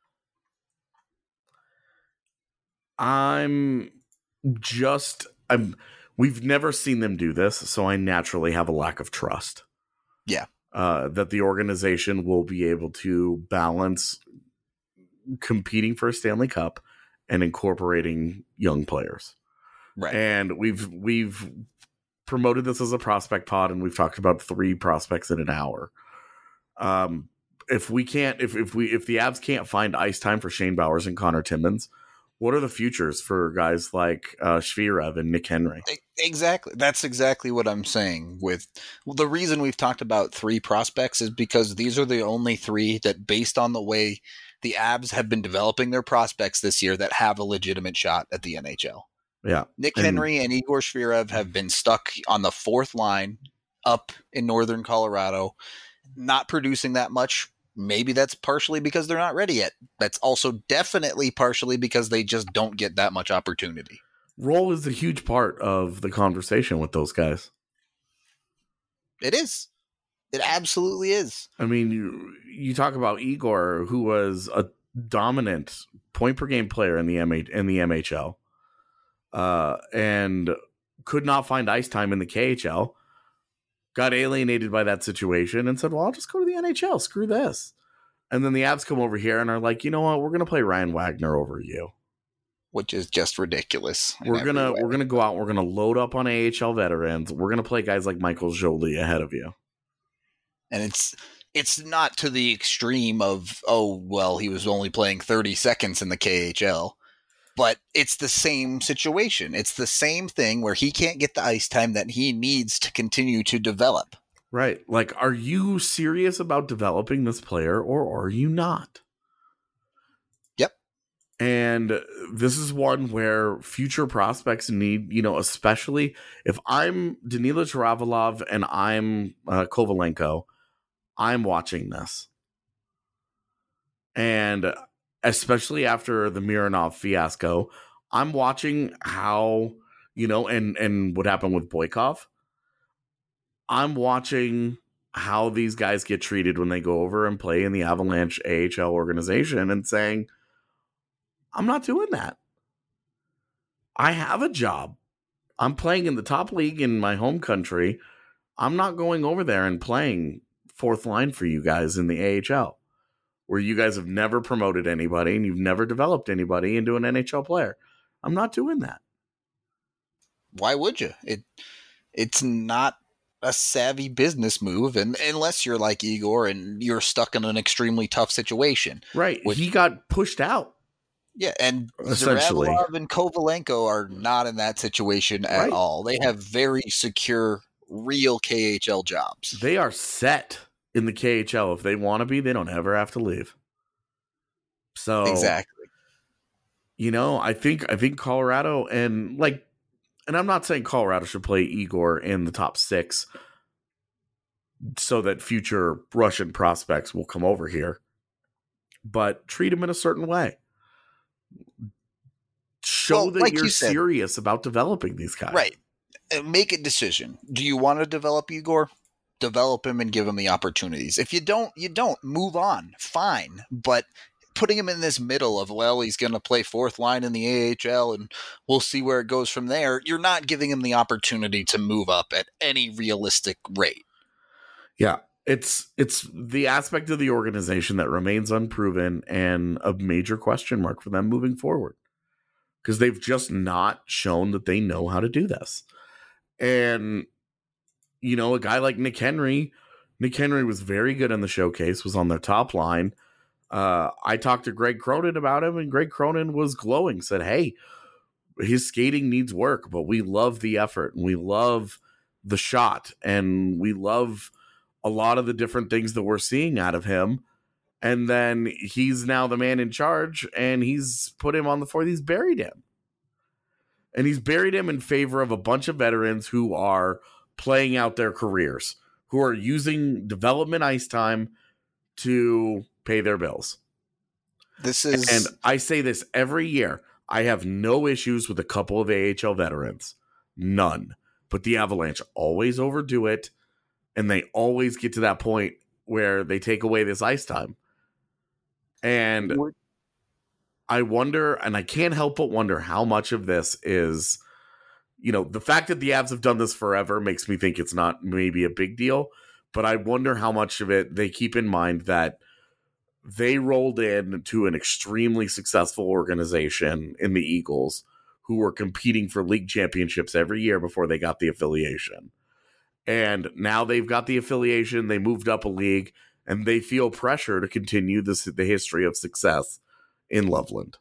I'm just, I'm, we've never seen them do this, so I naturally have a lack of trust. Yeah. Uh, that the organization will be able to balance competing for a Stanley Cup and incorporating young players. Right. And we've we've promoted this as a prospect pod, and we've talked about three prospects in an hour. Um, if we can't, if if we if the Avs can't find ice time for Shane Bowers and Connor Timmins, what are the futures for guys like uh, Shvirev and Nick Henry? Exactly. That's exactly what I'm saying. With well, the reason we've talked about three prospects is because these are the only three that, based on the way the Avs have been developing their prospects this year, that have a legitimate shot at the N H L. Yeah. Nick and, Henry and Igor Shvirev have been stuck on the fourth line up in northern Colorado, not producing that much. Maybe that's partially because they're not ready yet. That's also definitely partially because they just don't get that much opportunity. Role is a huge part of the conversation with those guys. It is. It absolutely is. I mean, you you talk about Igor, who was a dominant point per game player in the M H in the M H L, uh, and could not find ice time in the K H L. Got alienated by that situation and said, "Well, I'll just go to the N H L. Screw this." And then the Avs come over here and are like, "You know what? We're going to play Ryan Wagner over you." Which is just ridiculous. We're gonna we're gonna go out. We're gonna load up on A H L veterans. We're gonna play guys like Michael Joly ahead of you. And it's it's not to the extreme of, oh well, he was only playing thirty seconds in the K H L, but it's the same situation. It's the same thing where he can't get the ice time that he needs to continue to develop. Right? Like, are you serious about developing this player, or are you not? And this is one where future prospects need, you know, especially if I'm Danila Charavalov and I'm uh, Kovalenko, I'm watching this. And especially after the Mironov fiasco, I'm watching how, you know, and, and what happened with Boykov. I'm watching how these guys get treated when they go over and play in the Avalanche A H L organization and saying, I'm not doing that. I have a job. I'm playing in the top league in my home country. I'm not going over there and playing fourth line for you guys in the A H L, where you guys have never promoted anybody and you've never developed anybody into an N H L player. I'm not doing that. Why would you? It it's not a savvy business move, and unless you're like Igor and you're stuck in an extremely tough situation. Right. Which, he got pushed out. Yeah, and Essentially. Zaravalov and Kovalenko are not in that situation at Right. all. They have very secure, real K H L jobs. They are set in the K H L. If they want to be, they don't ever have to leave. So Exactly. You know, I think I think Colorado and like, and I'm not saying Colorado should play Igor in the top six so that future Russian prospects will come over here, but treat him in a certain way. Show Well, that like you're you said, serious about developing these guys. Right. Uh, Make a decision. Do you want to develop Igor? Develop him and give him the opportunities. If you don't, you don't. Move on. Fine. But putting him in this middle of, well, he's going to play fourth line in the A H L and we'll see where it goes from there, you're not giving him the opportunity to move up at any realistic rate. Yeah. It's it's the aspect of the organization that remains unproven and a major question mark for them moving forward. Because they've just not shown that they know how to do this. And, you know, a guy like Nick Henry, Nick Henry was very good in the showcase, was on their top line. Uh, I talked to Greg Cronin about him, and Greg Cronin was glowing, said, hey, his skating needs work, but we love the effort, and we love the shot, and we love a lot of the different things that we're seeing out of him. And then he's now the man in charge, and he's put him on the floor. He's buried him. And he's buried him in favor of a bunch of veterans who are playing out their careers, who are using development ice time to pay their bills. This is, And I say this every year. I have no issues with a couple of A H L veterans. None. But the Avalanche always overdo it, and they always get to that point where they take away this ice time. And I wonder, and I can't help but wonder how much of this is, you know, the fact that the Avs have done this forever makes me think it's not maybe a big deal, but I wonder how much of it they keep in mind that they rolled in to an extremely successful organization in the Eagles who were competing for league championships every year before they got the affiliation. And now they've got the affiliation, they moved up a league, and they feel pressure to continue this, the history of success in Loveland.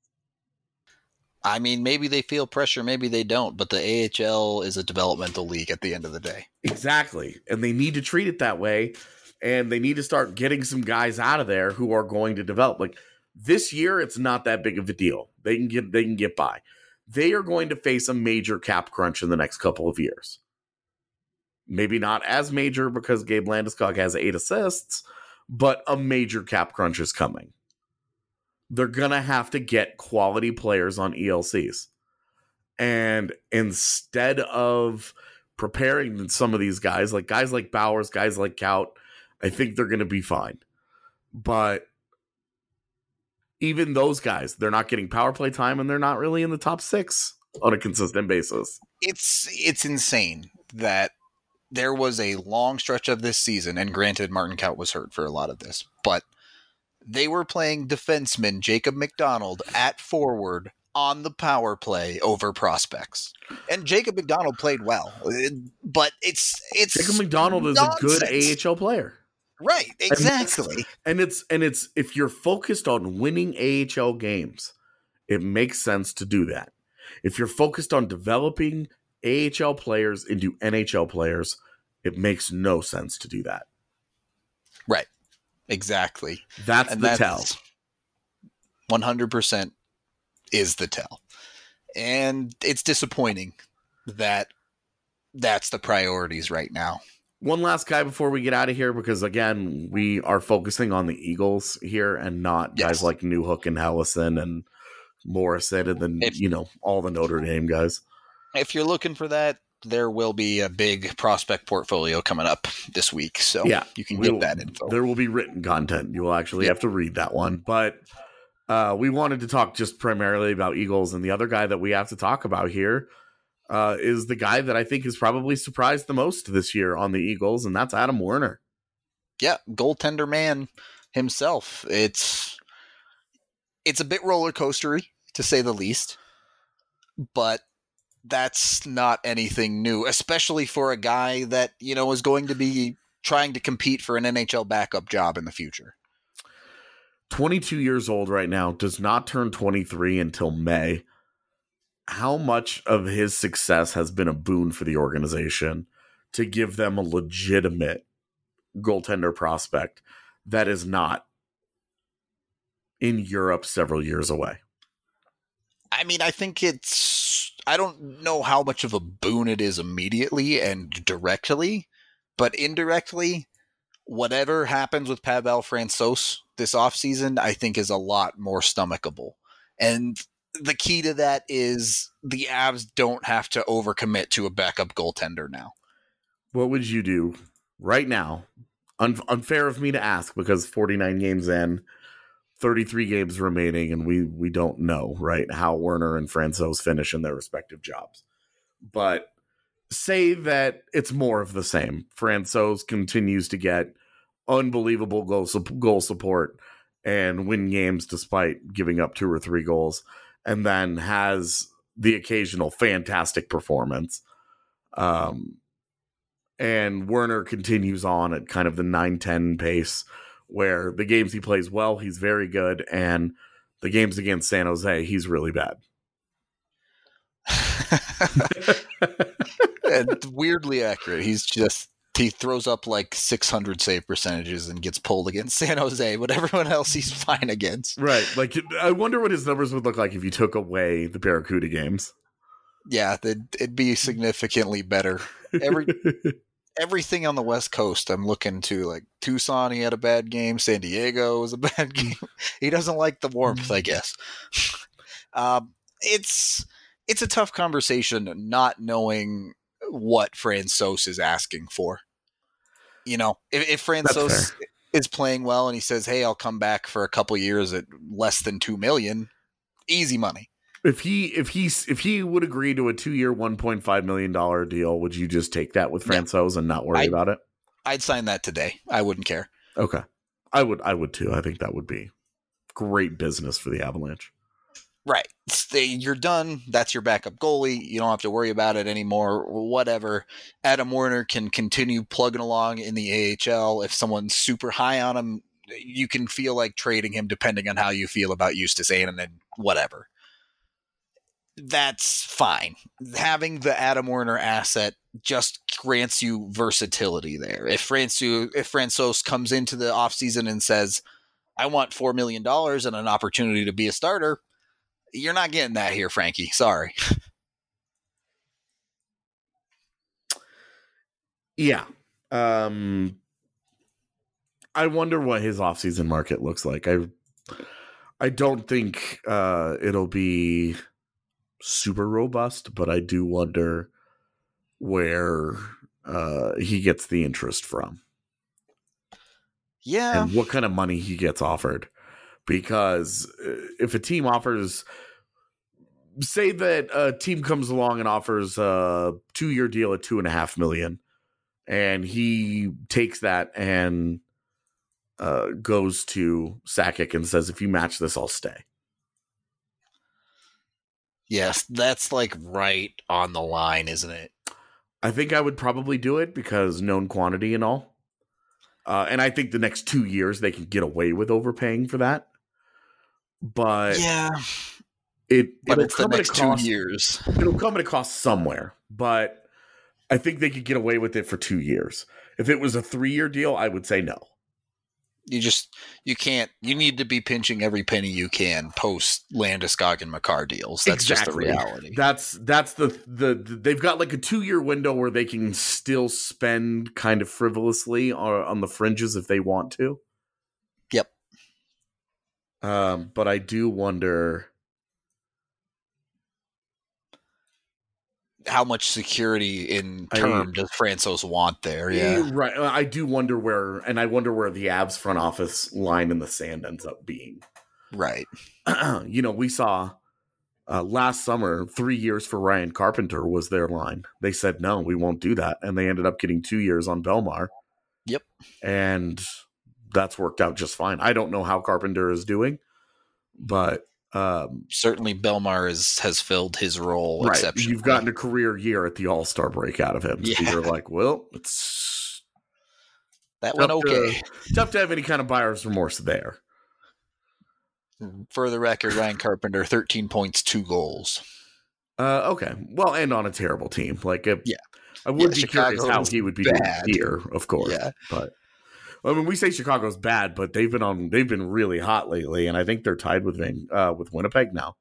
I mean, maybe they feel pressure, maybe they don't, but the A H L is a developmental league at the end of the day. Exactly. And they need to treat it that way, and they need to start getting some guys out of there who are going to develop. Like this year, it's not that big of a deal. They can get they can get by. They are going to face a major cap crunch in the next couple of years. Maybe not as major because Gabe Landeskog has eight assists, but a major cap crunch is coming. They're going to have to get quality players on E L Cs. And instead of preparing some of these guys, like guys like Bowers, guys like Kaut, I think they're going to be fine. But even those guys, they're not getting power play time and they're not really in the top six on a consistent basis. It's it's insane that there was a long stretch of this season, and granted, Martin Kaut was hurt for a lot of this, but they were playing defenseman Jacob McDonald at forward on the power play over prospects. And Jacob McDonald played well, but it's it's Jacob McDonald nonsense. Is a good A H L player. Right, exactly. And it's and it's if you're focused on winning A H L games, it makes sense to do that. If you're focused on developing A H L players into N H L players, it makes no sense to do that. Right. Exactly. That's and the that's tell. one hundred percent is the tell. And it's disappointing that that's the priorities right now. One last guy before we get out of here, because again, we are focusing on the Eagles here and not yes. guys like Newhook and Hellison and Morrison and then, if, you know, all the Notre Dame guys. If you're looking for that, there will be a big prospect portfolio coming up this week. So yeah, you can we'll, get that info. There will be written content. You will actually yeah. have to read that one. But uh, we wanted to talk just primarily about Eagles. And the other guy that we have to talk about here uh, is the guy that I think is probably surprised the most this year on the Eagles, and that's Adam Werner. Yeah, goaltender man himself. It's it's a bit roller coastery, to say the least. But that's not anything new, especially for a guy that, you know, is going to be trying to compete for an N H L backup job in the future. twenty-two years old right now, does not turn twenty-three until May. How much of his success has been a boon for the organization to give them a legitimate goaltender prospect that is not in Europe several years away? I mean, I think it's, I don't know how much of a boon it is immediately and directly, but indirectly, whatever happens with Pavel Francouz this offseason, I think is a lot more stomachable. And the key to that is the Avs don't have to overcommit to a backup goaltender now. What would you do right now? Un- unfair of me to ask, because forty-nine games in, thirty-three games remaining, and we we don't know, right, how Werner and Francouz finish in their respective jobs. But say that it's more of the same. Francouz continues to get unbelievable goal, goal support and win games despite giving up two or three goals, and then has the occasional fantastic performance. Um, and Werner continues on at kind of the nine ten pace, where the games he plays well, he's very good, and the games against San Jose, he's really bad. And weirdly accurate. He's just, he throws up like six hundred save percentages and gets pulled against San Jose, but everyone else he's fine against. Right. Like, I wonder what his numbers would look like if you took away the Barracuda games. Yeah, it'd, it'd be significantly better. Every Everything on the West Coast, I'm looking to, like Tucson, he had a bad game. San Diego was a bad game. He doesn't like the warmth, I guess. um, it's it's a tough conversation not knowing what Francouz is asking for. You know, if, if Francouz is playing well and he says, "Hey, I'll come back for a couple years at less than two million," easy money. If he if he if he would agree to a two year one point five million dollar deal, would you just take that with Francouz yeah. and not worry I'd, about it? I'd sign that today. I wouldn't care. Okay, I would. I would too. I think that would be great business for the Avalanche. Right, you're done. That's your backup goalie. You don't have to worry about it anymore. Whatever. Adam Werner can continue plugging along in the A H L. If someone's super high on him, you can feel like trading him, depending on how you feel about Justus Annunen and whatever. That's fine. Having the Adam Werner asset just grants you versatility there. If Francouz, if Francouz comes into the offseason and says, "I want four million dollars and an opportunity to be a starter," you're not getting that here, Frankie. Sorry. Yeah. Um, I wonder what his offseason market looks like. I I don't think uh, it'll be super robust, but I do wonder where uh, he gets the interest from. Yeah. And what kind of money he gets offered. because if a team offers, say that a team comes along and offers a two-year deal at two and a half million, and he takes that and uh, goes to Sakic and says, "If you match this, I'll stay." Yes, that's like right on the line, isn't it? I think I would probably do it because known quantity and all. Uh, and I think the next two years they can get away with overpaying for that. But yeah, it but it'll it's the come at a next cost. two years. It'll come at a cost somewhere. But I think they could get away with it for two years. If it was a three-year deal, I would say no. You just you can't. You need to be pinching every penny you can post Landeskog and Makar deals. That's Exactly. just the reality. That's that's the, the the they've got like a two year window where they can still spend kind of frivolously on, on the fringes if they want to. Yep. Um, but I do wonder how much security in term I, does Francouz want there? Yeah, right. I do wonder where, and I wonder where the Avs front office line in the sand ends up being. Right. You know, we saw uh, last summer three years for Ryan Carpenter was their line. They said no, we won't do that, and they ended up getting two years on Belmar. Yep, and that's worked out just fine. I don't know how Carpenter is doing, but. Um, Certainly, Belmar is, has filled his role right. exceptionally. You've gotten a career year at the All-Star break out of him. Yeah. So you're like, well, it's that went okay. To, tough to have any kind of buyer's remorse there. For the record, Ryan Carpenter, thirteen points, two goals. Uh, okay. Well, and on a terrible team. Like, a, yeah. I would yeah, be Chicago curious how he would be bad. doing here, of course. Yeah. But I mean, we say Chicago's bad, but they've been on. They've been really hot lately, and I think they're tied with Van, uh, with Winnipeg now.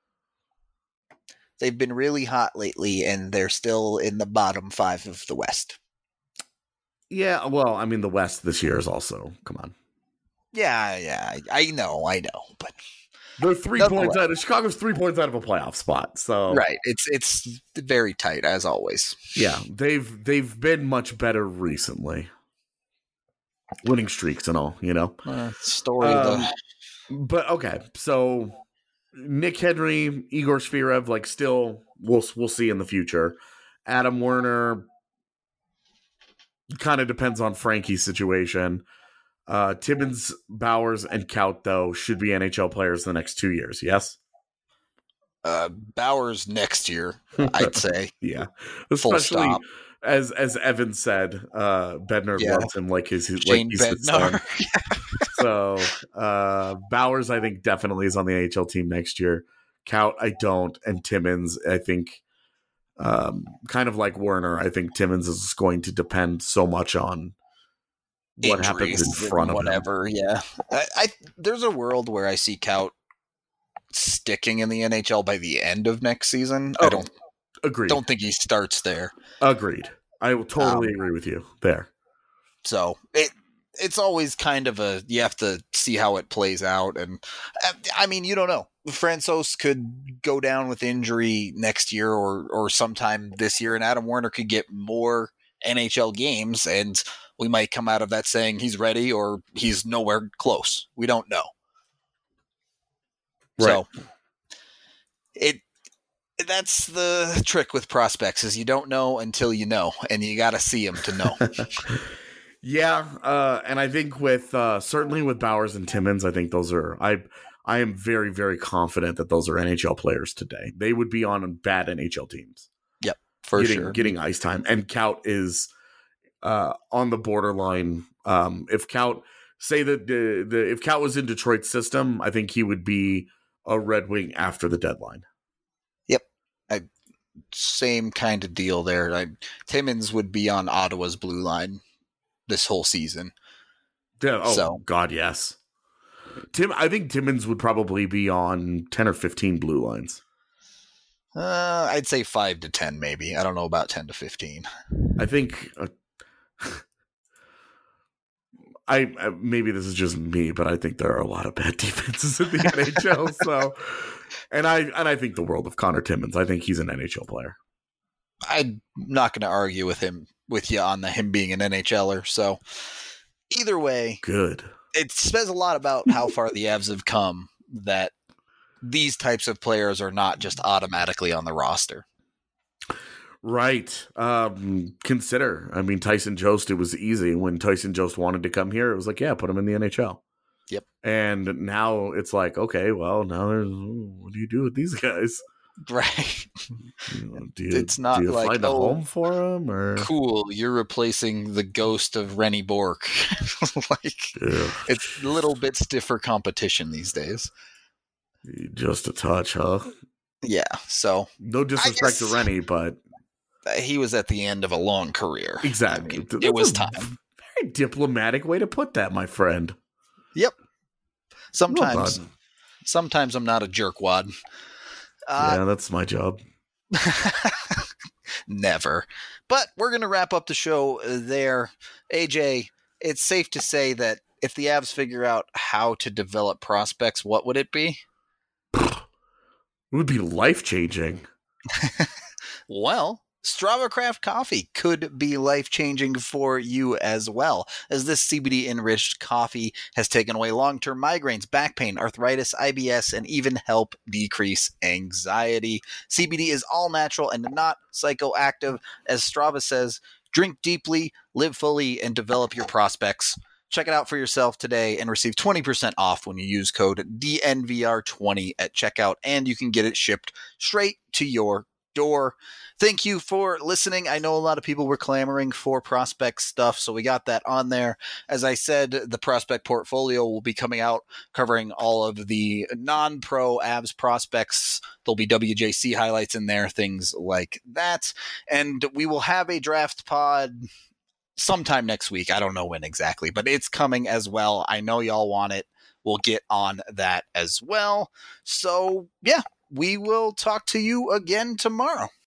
They've been really hot lately, and they're still in the bottom five of the West. Yeah, well, I mean, the West this year is also. Come on. Yeah, yeah, I, I know, I know, but they're three points out of Chicago's three points out of a playoff spot. So right, it's it's very tight as always. Yeah, they've they've been much better recently. Winning streaks and all, you know. Uh, story um, of the. But okay, so Nick Henry, Igor Shvirev, like still, we'll we'll see in the future. Adam Werner kind of depends on Frankie's situation. Uh, Timmins, Bowers, and Kaut though should be N H L players the next two years. Yes. Uh, Bowers next year, I'd say. Yeah, Full especially. stop. As as Evan said, uh, Bednar Yeah. loves him like his, his Shane like he's his son. Bednar. So uh, Bowers, I think, definitely is on the N H L team next year. Kaut, I don't, and Timmins, I think, um, kind of like Werner. I think Timmins is going to depend so much on what happens in front of whatever. him. Yeah, I, I there's a world where I see Kaut sticking in the N H L by the end of next season. Oh. I don't. Agreed. Don't think he starts there. Agreed. I will totally Um, agree with you there. So it it's always kind of a you have to see how it plays out, and I mean you don't know. Francouz could go down with injury next year or or sometime this year, and Adam Werner could get more N H L games, and we might come out of that saying he's ready or he's nowhere close. We don't know. Right. So it. That's the trick with prospects is you don't know until you know, and you got to see them to know. Yeah, uh, and I think with uh, certainly with Bowers and Timmins, I think those are I I am very very confident that those are N H L players today. They would be on bad N H L teams. Yep, for getting, sure. Getting ice time, and Kaut is uh, on the borderline. Um, if Kaut say that the, the if Kaut was in Detroit's system, I think he would be a Red Wing after the deadline. I, same kind of deal there. I, Timmins would be on Ottawa's blue line this whole season. Yeah, oh, so. God, yes. Tim, I think Timmins would probably be on ten or fifteen blue lines. Uh, I'd say five to ten, maybe. I don't know about ten to fifteen. I think. Uh, I, I maybe this is just me, but I think there are a lot of bad defenses in the N H L. So. And I and I think the world of Connor Timmins. I think he's an N H L player. I'm not going to argue with him with you on the him being an NHLer. So either way, good. it says a lot about how far the Avs have come that these types of players are not just automatically on the roster. Right. Um, consider, I mean, Tyson Jost, it was easy. When Tyson Jost wanted to come here, it was like, yeah, put him in the N H L. Yep. And now it's like, okay, well, now there's, what do you do with these guys? Right. You know, do you, It's not do you like, find a oh, home for them? Or? Cool, you're replacing the ghost of Rennie Bork. Like, Ugh. it's a little bit stiffer competition these days. Just a touch, huh? Yeah, so No disrespect guess- to Rennie, but he was at the end of a long career. exactly. I mean, That's it was a time. Very diplomatic way to put that, my friend. Yep. Well Sometimes, done. sometimes I'm not a jerkwad. Uh, yeah, that's my job. Never. But we're going to wrap up the show there. A J, it's safe to say that if the Avs figure out how to develop prospects, what would it be? It would be life changing. Well, Strava Craft Coffee could be life-changing for you as well, as this C B D-enriched coffee has taken away long-term migraines, back pain, arthritis, I B S, and even help decrease anxiety. C B D is all natural and not psychoactive. As Strava says, drink deeply, live fully, and develop your prospects. Check it out for yourself today and receive twenty percent off when you use code D N V R twenty at checkout, and you can get it shipped straight to your door. Thank you for listening. I know a lot of people were clamoring for prospect stuff, so we got that on there. As I said, the prospect portfolio will be coming out covering all of the non-pro Avs prospects. There'll be W J C highlights in there, things like that. And we will have a draft pod sometime next week. I don't know when exactly, but it's coming as well. I know y'all want it. We'll get on that as well. So, yeah, we will talk to you again tomorrow.